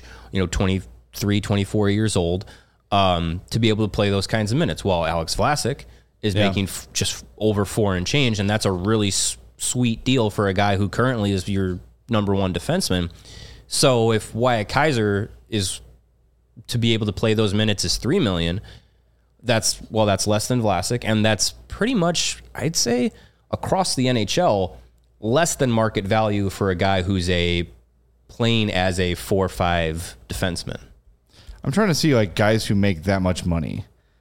23, 24 years old, to be able to play those kinds of minutes? Well, Alex Vlasic is making just over 4 and change, and that's a really sweet deal for a guy who currently is your number one defenseman. So if Wyatt Kaiser is to be able to play those minutes is $3 million, that's less than Vlasic, and that's pretty much, I'd say, across the NHL, less than market value for a guy who's playing as a 4-5 defenseman. I'm trying to see like guys who make that much money,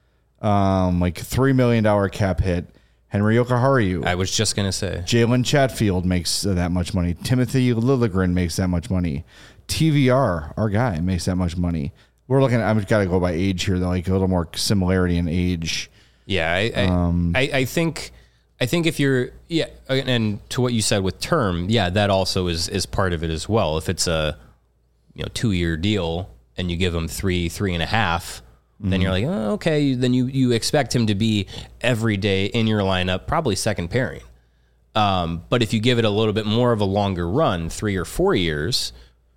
like $3 million cap hit. Henry Jokiharju. I was just gonna say Jalen Chatfield makes that much money. Timothy Liljegren makes that much money. TVR, our guy, makes that much money. We're looking at, I've got to go by age here, though, like a little more similarity in age. Yeah, I think if you're, and to what you said with term, that also is part of it as well. If it's a 2-year deal and you give him 3.5, then you're like, oh, okay, then you expect him to be every day in your lineup, probably second pairing. But if you give it a little bit more of a longer run, 3 or 4 years,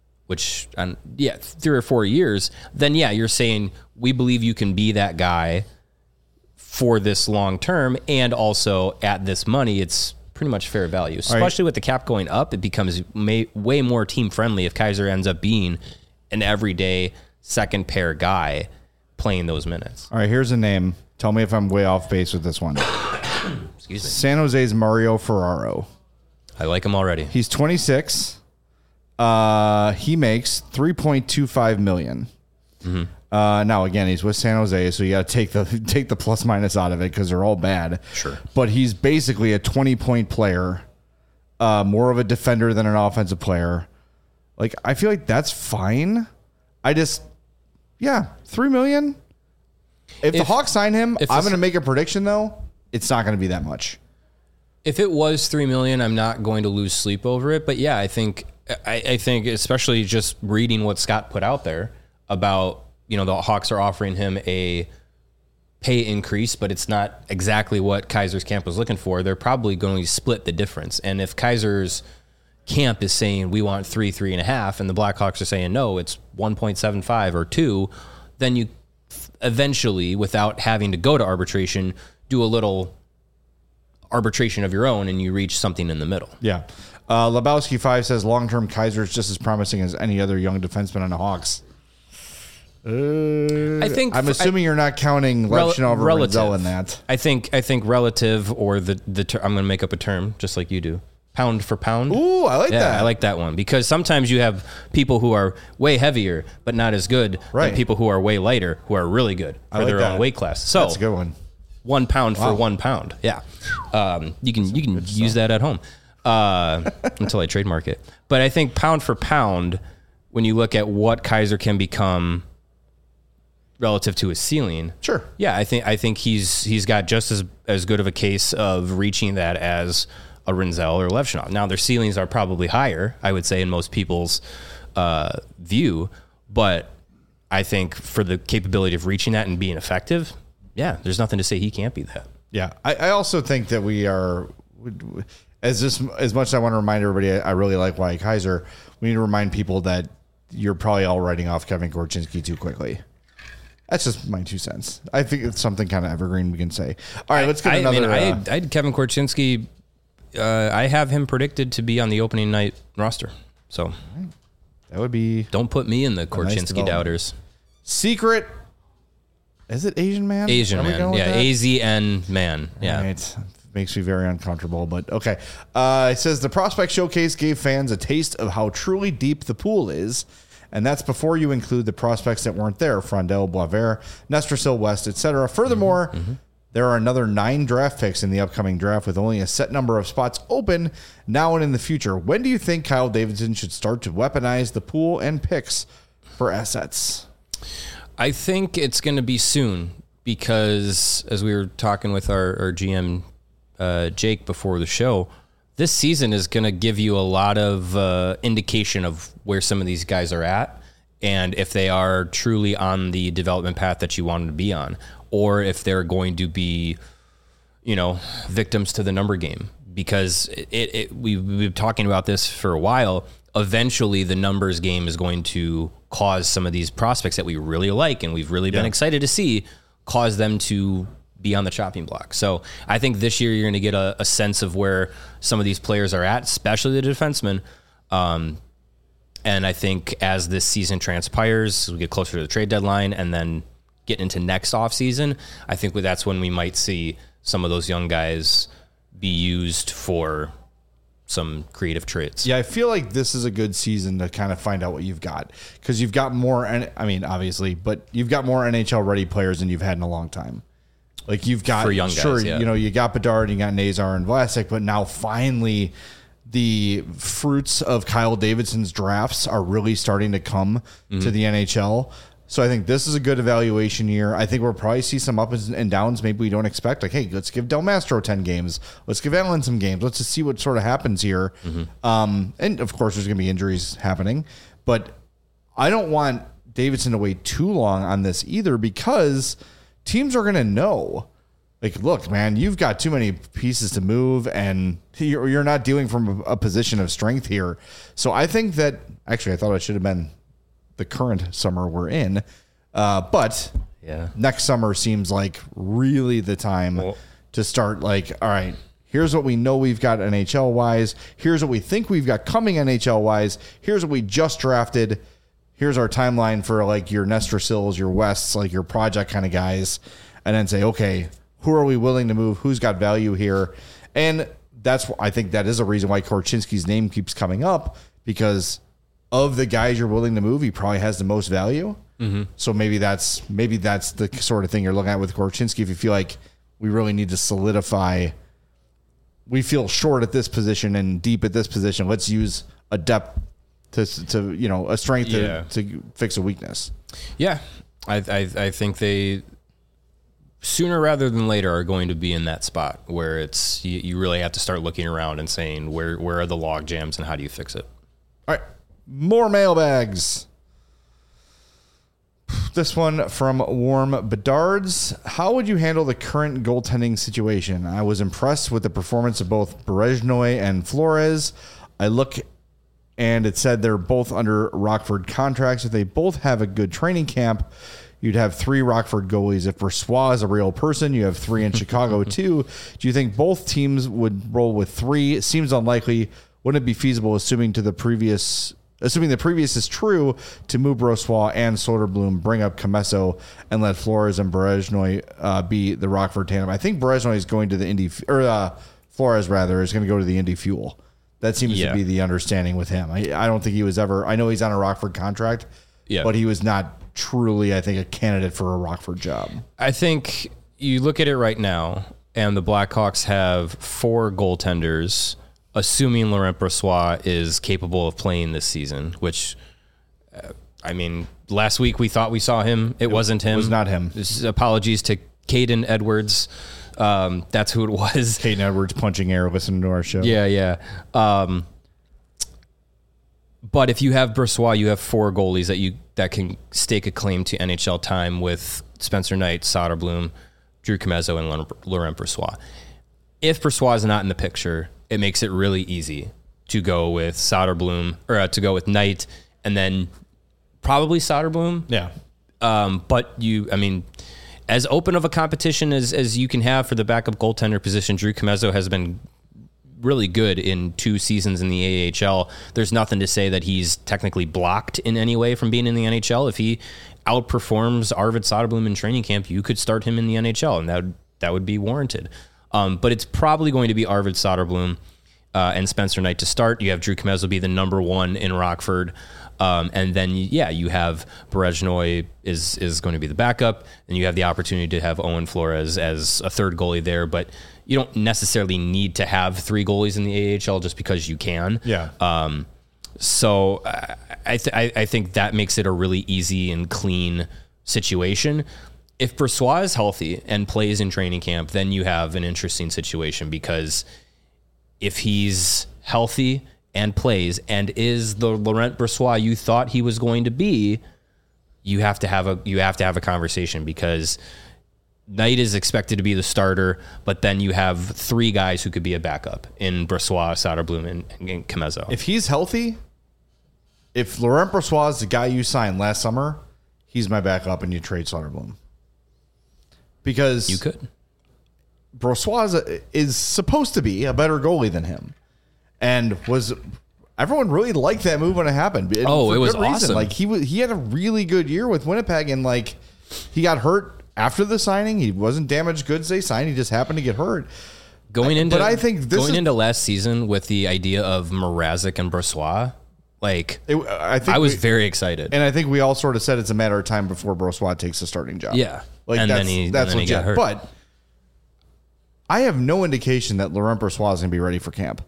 3 or 4 years, then you're saying we believe you can be that guy for this long term, and also at this money, it's pretty much fair value. Especially with the cap going up, it becomes way more team friendly if Kaiser ends up being an everyday second pair guy playing those minutes. All right, here's a name. Tell me if I'm way off base with this one. Excuse me. San Jose's Mario Ferraro. I like him already. He's 26. He makes $3.25 million. Mm-hmm. Now again, he's with San Jose, so you got to take the plus minus out of it because they're all bad. Sure. But he's basically a 20-point player, more of a defender than an offensive player. Like, I feel like that's fine. $3 million. If the Hawks sign him, I'm going to make a prediction though. It's not going to be that much. If it was $3 million, I'm not going to lose sleep over it. But I think especially just reading what Scott put out there about, the Hawks are offering him a pay increase, but it's not exactly what Kaiser's camp was looking for. They're probably going to split the difference. And if Kaiser's camp is saying we want 3.5, and the Blackhawks are saying no, it's 1.75 or 2, then you eventually, without having to go to arbitration, do a little arbitration of your own, and you reach something in the middle. Yeah. Lebowski 5 says long-term Kaiser is just as promising as any other young defenseman on the Hawks. I'm assuming you're not counting Levchinov or Renzel in that. I think relative, or the I'm going to make up a term just like you do. pound for pound. Ooh, I like that. I like that one because sometimes you have people who are way heavier but not as good Right. than people who are way lighter who are really good for like their that. own weight class. So That's a good one. 1 pound for 1 pound. Yeah. You can use that at home until I trademark it. But I think pound for pound, when you look at what Kaiser can become relative to his ceiling. Sure. Yeah, I think he's got just as good of a case of reaching that as a Rinzel or Levchinov. Now their ceilings are probably higher, I would say, in most people's view, but I think for the capability of reaching that and being effective, yeah, there's nothing to say he can't be that. Yeah, I also think that we are, as much as I want to remind everybody, I really like Wyatt Kaiser. We need to remind people that you're probably all writing off Kevin Korchinski too quickly. That's just my 2 cents. I think it's something kind of evergreen we can say. All right, let's get another. I had Kevin Korchinski. I have him predicted to be on the opening night roster. So that would be. Don't put me in the Korchinski doubters. Secret. Is it Asian man? Asian man. Yeah, AZN man. Yeah. Right. Makes me very uncomfortable, but okay. It says the Prospect Showcase gave fans a taste of how truly deep the pool is. And that's before you include the prospects that weren't there, Frondel, Boisvert, Nestrasil, West, etc. Furthermore, there are another 9 draft picks in the upcoming draft with only a set number of spots open now and in the future. When do you think Kyle Davidson should start to weaponize the pool and picks for assets? I think it's going to be soon because, as we were talking with our GM, Jake, before the show, this season is going to give you a lot of indication of where some of these guys are at and if they are truly on the development path that you want them to be on, or if they're going to be, victims to the number game. Because we've been talking about this for a while. Eventually, the numbers game is going to cause some of these prospects that we really like and we've really been excited to see, cause them to be on the chopping block. So I think this year you're going to get a sense of where some of these players are at, especially the defensemen. And I think as this season transpires, we get closer to the trade deadline and then get into next offseason, I think that's when we might see some of those young guys be used for some creative traits. Yeah, I feel like this is a good season to kind of find out what you've got because you've got more, obviously, but you've got more NHL ready players than you've had in a long time. Like you've got, for young guys, you got Bedard, you got Nazar and Vlasic, but now finally the fruits of Kyle Davidson's drafts are really starting to come to the NHL. So I think this is a good evaluation year. I think we'll probably see some ups and downs. Maybe we don't expect, like, hey, let's give Del Mastro 10 games. Let's give Allen some games. Let's just see what sort of happens here. And of course, there's going to be injuries happening, but I don't want Davidson to wait too long on this either because teams are going to know, like, look, man, you've got too many pieces to move and you're not dealing from a position of strength here. So I think that actually I thought it should have been the current summer we're in. But next summer seems like really the time to start like, all right, here's what we know we've got NHL wise. Here's what we think we've got coming NHL wise. Here's what we just drafted. Here's our timeline for like your Nestrasils, your Wests, like your project kind of guys. And then say, okay, who are we willing to move? Who's got value here? And I think that is a reason why Korchinski's name keeps coming up, because of the guys you're willing to move, he probably has the most value. So maybe that's the sort of thing you're looking at with Korchinski. If you feel like we really need to solidify, we feel short at this position and deep at this position, let's use a depth to a strength to fix a weakness. Yeah, I think they sooner rather than later are going to be in that spot where it's you really have to start looking around and saying where are the log jams and how do you fix it. All right, more mailbags. This one from Warm Bedards. How would you handle the current goaltending situation? I was impressed with the performance of both Berezhnoy and Flores. I look and it said they're both under Rockford contracts. If they both have a good training camp, you'd have 3 Rockford goalies. If Brossoit is a real person, you have 3 in Chicago too. Do you think both teams would roll with 3? It seems unlikely. Wouldn't it be feasible, assuming the previous is true, to move Brossoit and Soderblom, bring up Comesso, and let Flores and Berezhnoy be the Rockford tandem? I think Berezhnoy is going to the Indy, or Flores rather is going to go to the Indy Fuel. That seems to be the understanding with him. I don't think he was ever. I know he's on a Rockford contract, but he was not truly, I think, a candidate for a Rockford job. I think you look at it right now, and the Blackhawks have 4 goaltenders, assuming Laurent Brossoit is capable of playing this season, which, I mean, last week we thought we saw him. It wasn't him. It was not him. Apologies to Caden Edwards. That's who it was. Caden Edwards punching air, listening to our show. Yeah. But if you have Brossoit, you have 4 goalies that can stake a claim to NHL time with Spencer Knight, Soderblom, Drew Comezzo, and Laurent Brossoit. If Brossoit is not in the picture, it makes it really easy to go with Soderblom, or to go with Knight, and then probably Soderblom. Yeah. But as open of a competition as you can have for the backup goaltender position, Drew Comezzo has been really good in 2 seasons in the AHL. There's nothing to say that he's technically blocked in any way from being in the NHL. If he outperforms Arvid Soderblom in training camp, you could start him in the NHL, and that would be warranted. But it's probably going to be Arvid Soderblom and Spencer Knight to start. You have Drew Comezzo be the number 1 in Rockford. And then, you have Berezhnoy is going to be the backup, and you have the opportunity to have Owen Flores as a third goalie there, but you don't necessarily need to have 3 goalies in the AHL just because you can. Yeah. So I think that makes it a really easy and clean situation. If Brossoit is healthy and plays in training camp, then you have an interesting situation, because if he's healthy and plays and is the Laurent Brossoit you thought he was going to be, you have to have a conversation, because Knight is expected to be the starter, but then you have 3 guys who could be a backup in Brossoit, Soderblom, and Comezzo. If he's healthy, if Laurent Brossoit is the guy you signed last summer, he's my backup, and you trade Soderblom. Because you could. Brossoit is supposed to be a better goalie than him. And everyone really liked that move when it happened. It was awesome. Like he had a really good year with Winnipeg, and like he got hurt after the signing. He wasn't damaged goods they signed. He just happened to get hurt. Going into last season with the idea of Mrazek and Brossoit, I was very excited. And I think we all sort of said it's a matter of time before Brossoit takes the starting job. Yeah. And then he got hurt. But I have no indication that Laurent Brossoit is going to be ready for camp.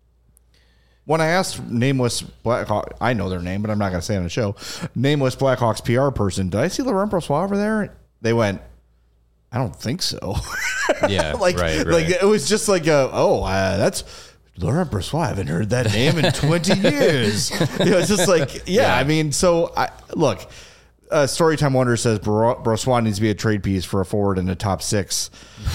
When I asked nameless Blackhawk, I know their name, but I'm not going to say it on the show, nameless Blackhawks PR person, did I see Laurent Brossoit over there? They went, I don't think so. Yeah, right. Like it was just like, that's Laurent Brossoit. I haven't heard that name in 20 years. It's just like, I mean, so look, Storytime Wonder says Brossoit needs to be a trade piece for a forward in the top 6.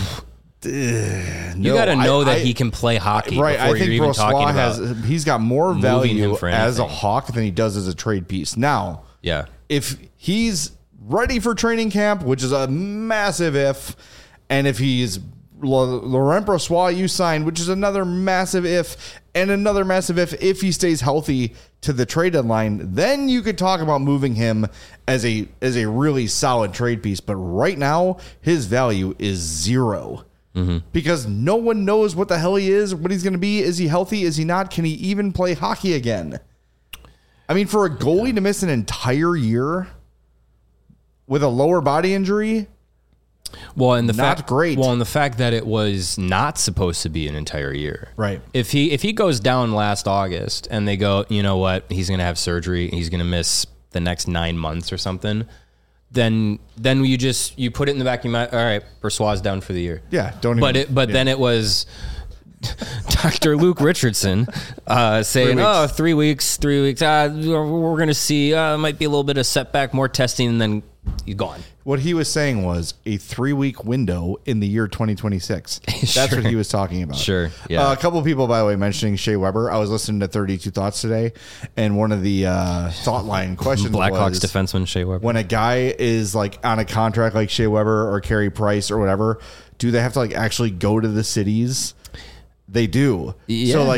You got to know that he can play hockey. Right. I think you're even talking about he's got more value as a Hawk than he does as a trade piece. Now, if he's ready for training camp, which is a massive if, and if he's Laurent Brossoit you signed, which is another massive if, and another massive if he stays healthy to the trade deadline, then you could talk about moving him as a really solid trade piece. But right now, his value is 0. Because no one knows what the hell he is, what he's going to be. Is he healthy? Is he not? Can he even play hockey again? I mean, for a goalie to miss an entire year with a lower body injury, and the fact that it was not supposed to be an entire year. Right. If he goes down last August and they go, you know what, he's going to have surgery, he's going to miss the next 9 months or something, then you put it in the back of your mind. All right, Brossoit's down for the year. Yeah, then it was Dr. Luke Richardson saying, 3 weeks. We're going to see. It might be a little bit of setback, more testing, and then he's gone. What he was saying was a 3-week window in the year 2026. That's what he was talking about. Sure. Yeah. A couple of people, by the way, mentioning Shea Weber. I was listening to 32 Thoughts today, and one of the thought line questions Blackhawks defenseman Shea Weber. When a guy is like on a contract like Shea Weber or Carey Price or whatever, do they have to like actually go to the cities? They do. Yeah, so like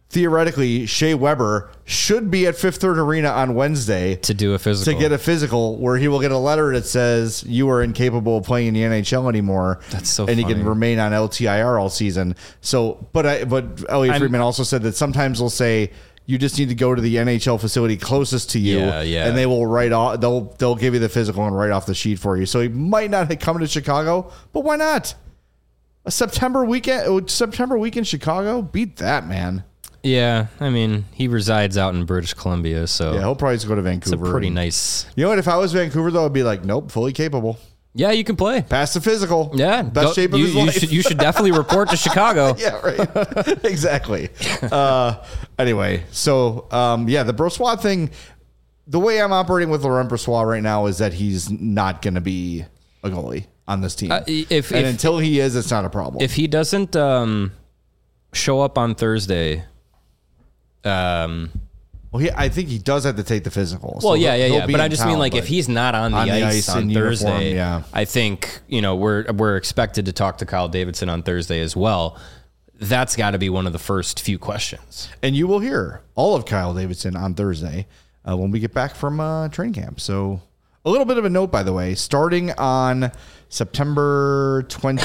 theoretically, Shea Weber should be at Fifth Third Arena on Wednesday to do a physical. To get a physical where he will get a letter that says you are incapable of playing in the NHL anymore. That's so and funny. he can remain on LTIR all season. So, but Elliot Friedman also said that sometimes they'll say you just need to go to the NHL facility closest to you, and they will write off. They'll give you the physical and write off the sheet for you. So he might not have come to Chicago, but why not? A September week in Chicago, beat that, man. Yeah, I mean, he resides out in British Columbia, so Yeah, he'll probably just go to Vancouver. it's a pretty nice. You know what? If I was Vancouver, though, I'd be like, nope, fully capable. Yeah, you can play. Pass the physical. Yeah, Best shape of his life. You should definitely report to Chicago. Yeah, right. Exactly. Anyway, so, the Brossoit thing, the way I'm operating with Laurent Brossoit right now is that he's not going to be a goalie on this team. Until he is, it's not a problem. If he doesn't show up on Thursday... I think he does have to take the physical. Well, yeah. But I just mean, like, if he's not on the ice on Thursday, uniform, I think, we're expected to talk to Kyle Davidson on Thursday as well. That's got to be one of the first few questions. And you will hear all of Kyle Davidson on Thursday when we get back from training camp. So a little bit of a note, by the way, starting on September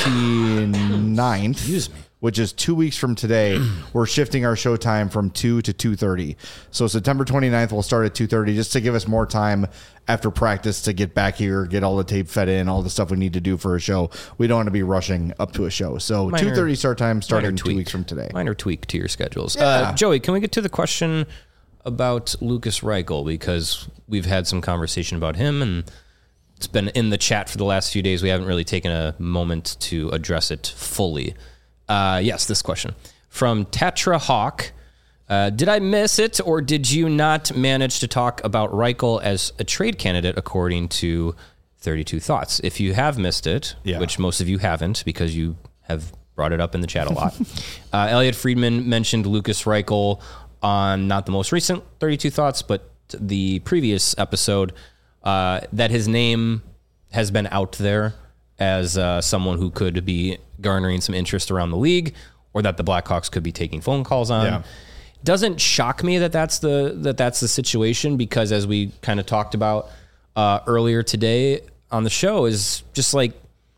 29th. Which is 2 weeks from today, we're shifting our show time from 2 to 2:30. So September 29th, we'll start at 2:30 just to give us more time after practice to get back here, get all the tape fed in, all the stuff we need to do for a show. We don't want to be rushing up to a show. So 2:30 start time starting 2 weeks from today. Minor tweak to your schedules. Yeah. Joey, can we get to the question about Lukas Reichel? Because we've had some conversation about him, and it's been in the chat for the last few days. We haven't really taken a moment to address it fully. Yes, this question from Tetra Hawk. Did I miss it, or did you not manage to talk about Reichel as a trade candidate according to 32 Thoughts? If you have missed it, which most of you haven't because you have brought it up in the chat a lot, Elliot Friedman mentioned Lukas Reichel on not the most recent 32 Thoughts, but the previous episode, that his name has been out there as someone who could be garnering some interest around the league, or that the Blackhawks could be taking phone calls on. Yeah. Doesn't shock me that that's the situation, because as we kind of talked about earlier today on the show, is just like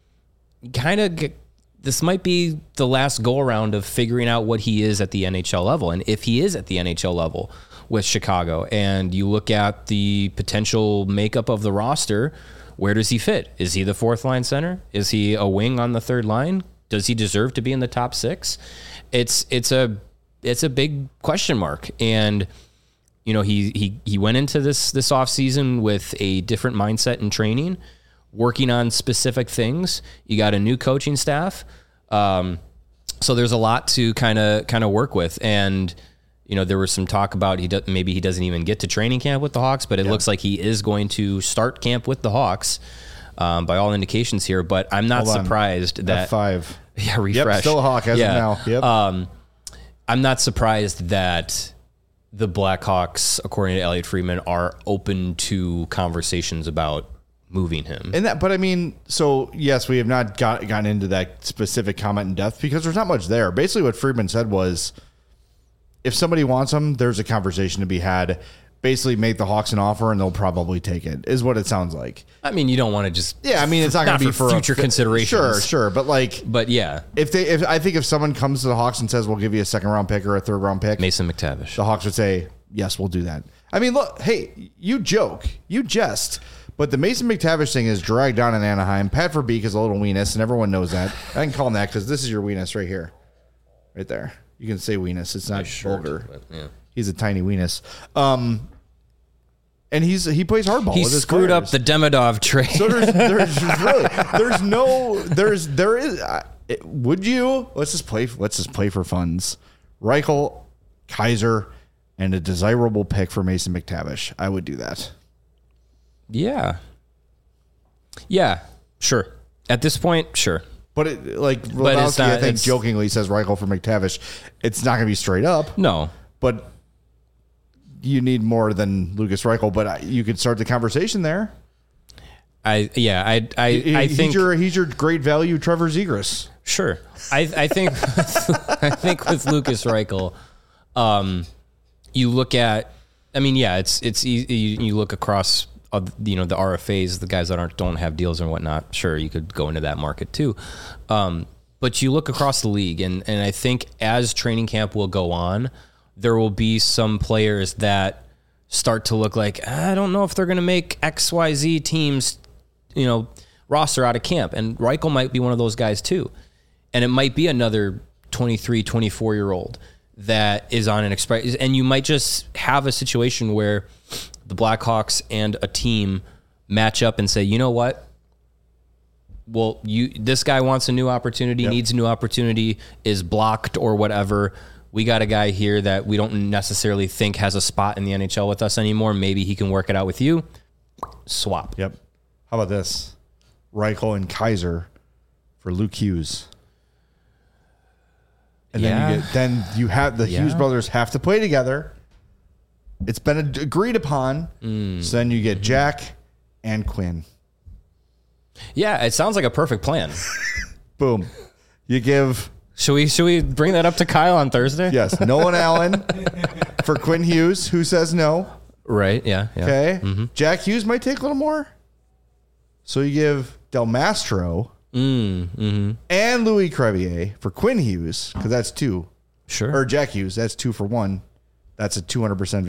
this might be the last go around of figuring out what he is at the NHL level, and if he is at the NHL level with Chicago, and you look at the potential makeup of the roster. Where does he fit? Is he the fourth line center? Is he a wing on the third line? Does he deserve to be in the top six? It's a big question mark. And he went into this offseason with a different mindset and training, working on specific things. You got a new coaching staff. So there's a lot to kind of work with. And there was some talk about maybe he doesn't even get to training camp with the Hawks, but it looks like he is going to start camp with the Hawks by all indications here. But I'm not surprised that F5. Yeah, refresh. Yep, still a Hawk as of now. Yep. I'm not surprised that the Blackhawks, according to Elliot Friedman, are open to conversations about moving him. But I mean, so yes, we have not gotten into that specific comment in depth because there's not much there. Basically, what Friedman said was, if somebody wants him, there's a conversation to be had. Basically, make the Hawks an offer, and they'll probably take it, is what it sounds like. I mean, you don't want to just... Yeah, I mean, it's not going to be for future considerations. Sure. But yeah. If someone comes to the Hawks and says, we'll give you a second-round pick or a third-round pick... Mason McTavish. The Hawks would say, yes, we'll do that. I mean, look, hey, you joke. You jest. But the Mason McTavish thing is dragged on in Anaheim. Pat Verbeek is a little weenus, and everyone knows that. I can call him that because this is your weenus right here. Right there. You can say weenus. It's not vulgar. Yeah. He's a tiny weenus. And he plays hardball. He with his screwed players. up the Demidov trade. So would you? Let's just play for funds. Reichel, Kaiser, and a desirable pick for Mason McTavish. I would do that. Yeah, sure. At this point, sure. But Lebowski, I think, jokingly says Reichel for McTavish. It's not going to be straight up. No. But you need more than Lukas Reichel. But you could start the conversation there. I think he's your great value, Trevor Zegras. Sure. I think I think with Lukas Reichel, You look at, I mean, yeah, it's easy. You look across, the RFAs, the guys that don't have deals and whatnot. Sure, you could go into that market too. But you look across the league, and I think as training camp will go on, there will be some players that start to look like, I don't know if they're going to make XYZ teams, roster out of camp. And Reichel might be one of those guys too. And it might be another 23, 24-year-old that is on an express. And you might just have a situation where the Blackhawks and a team match up and say, you know what? Well, this guy wants a new opportunity, needs a new opportunity, is blocked or whatever. We got a guy here that we don't necessarily think has a spot in the NHL with us anymore. Maybe he can work it out with you. Swap. Yep. How about this? Reichel and Kaiser for Luke Hughes. And then you have the Hughes brothers have to play together. It's been agreed upon. So then you get Jack and Quinn. Yeah, it sounds like a perfect plan. Boom. You give... Should we bring that up to Kyle on Thursday? Yes. Nolan Allen for Quinn Hughes, who says no. Right, yeah. Okay. Mm-hmm. Jack Hughes might take a little more. So you give Del Mastro and Louis Crevier for Quinn Hughes, because that's 2. Sure. Or Jack Hughes, that's 2 for 1. That's a 200%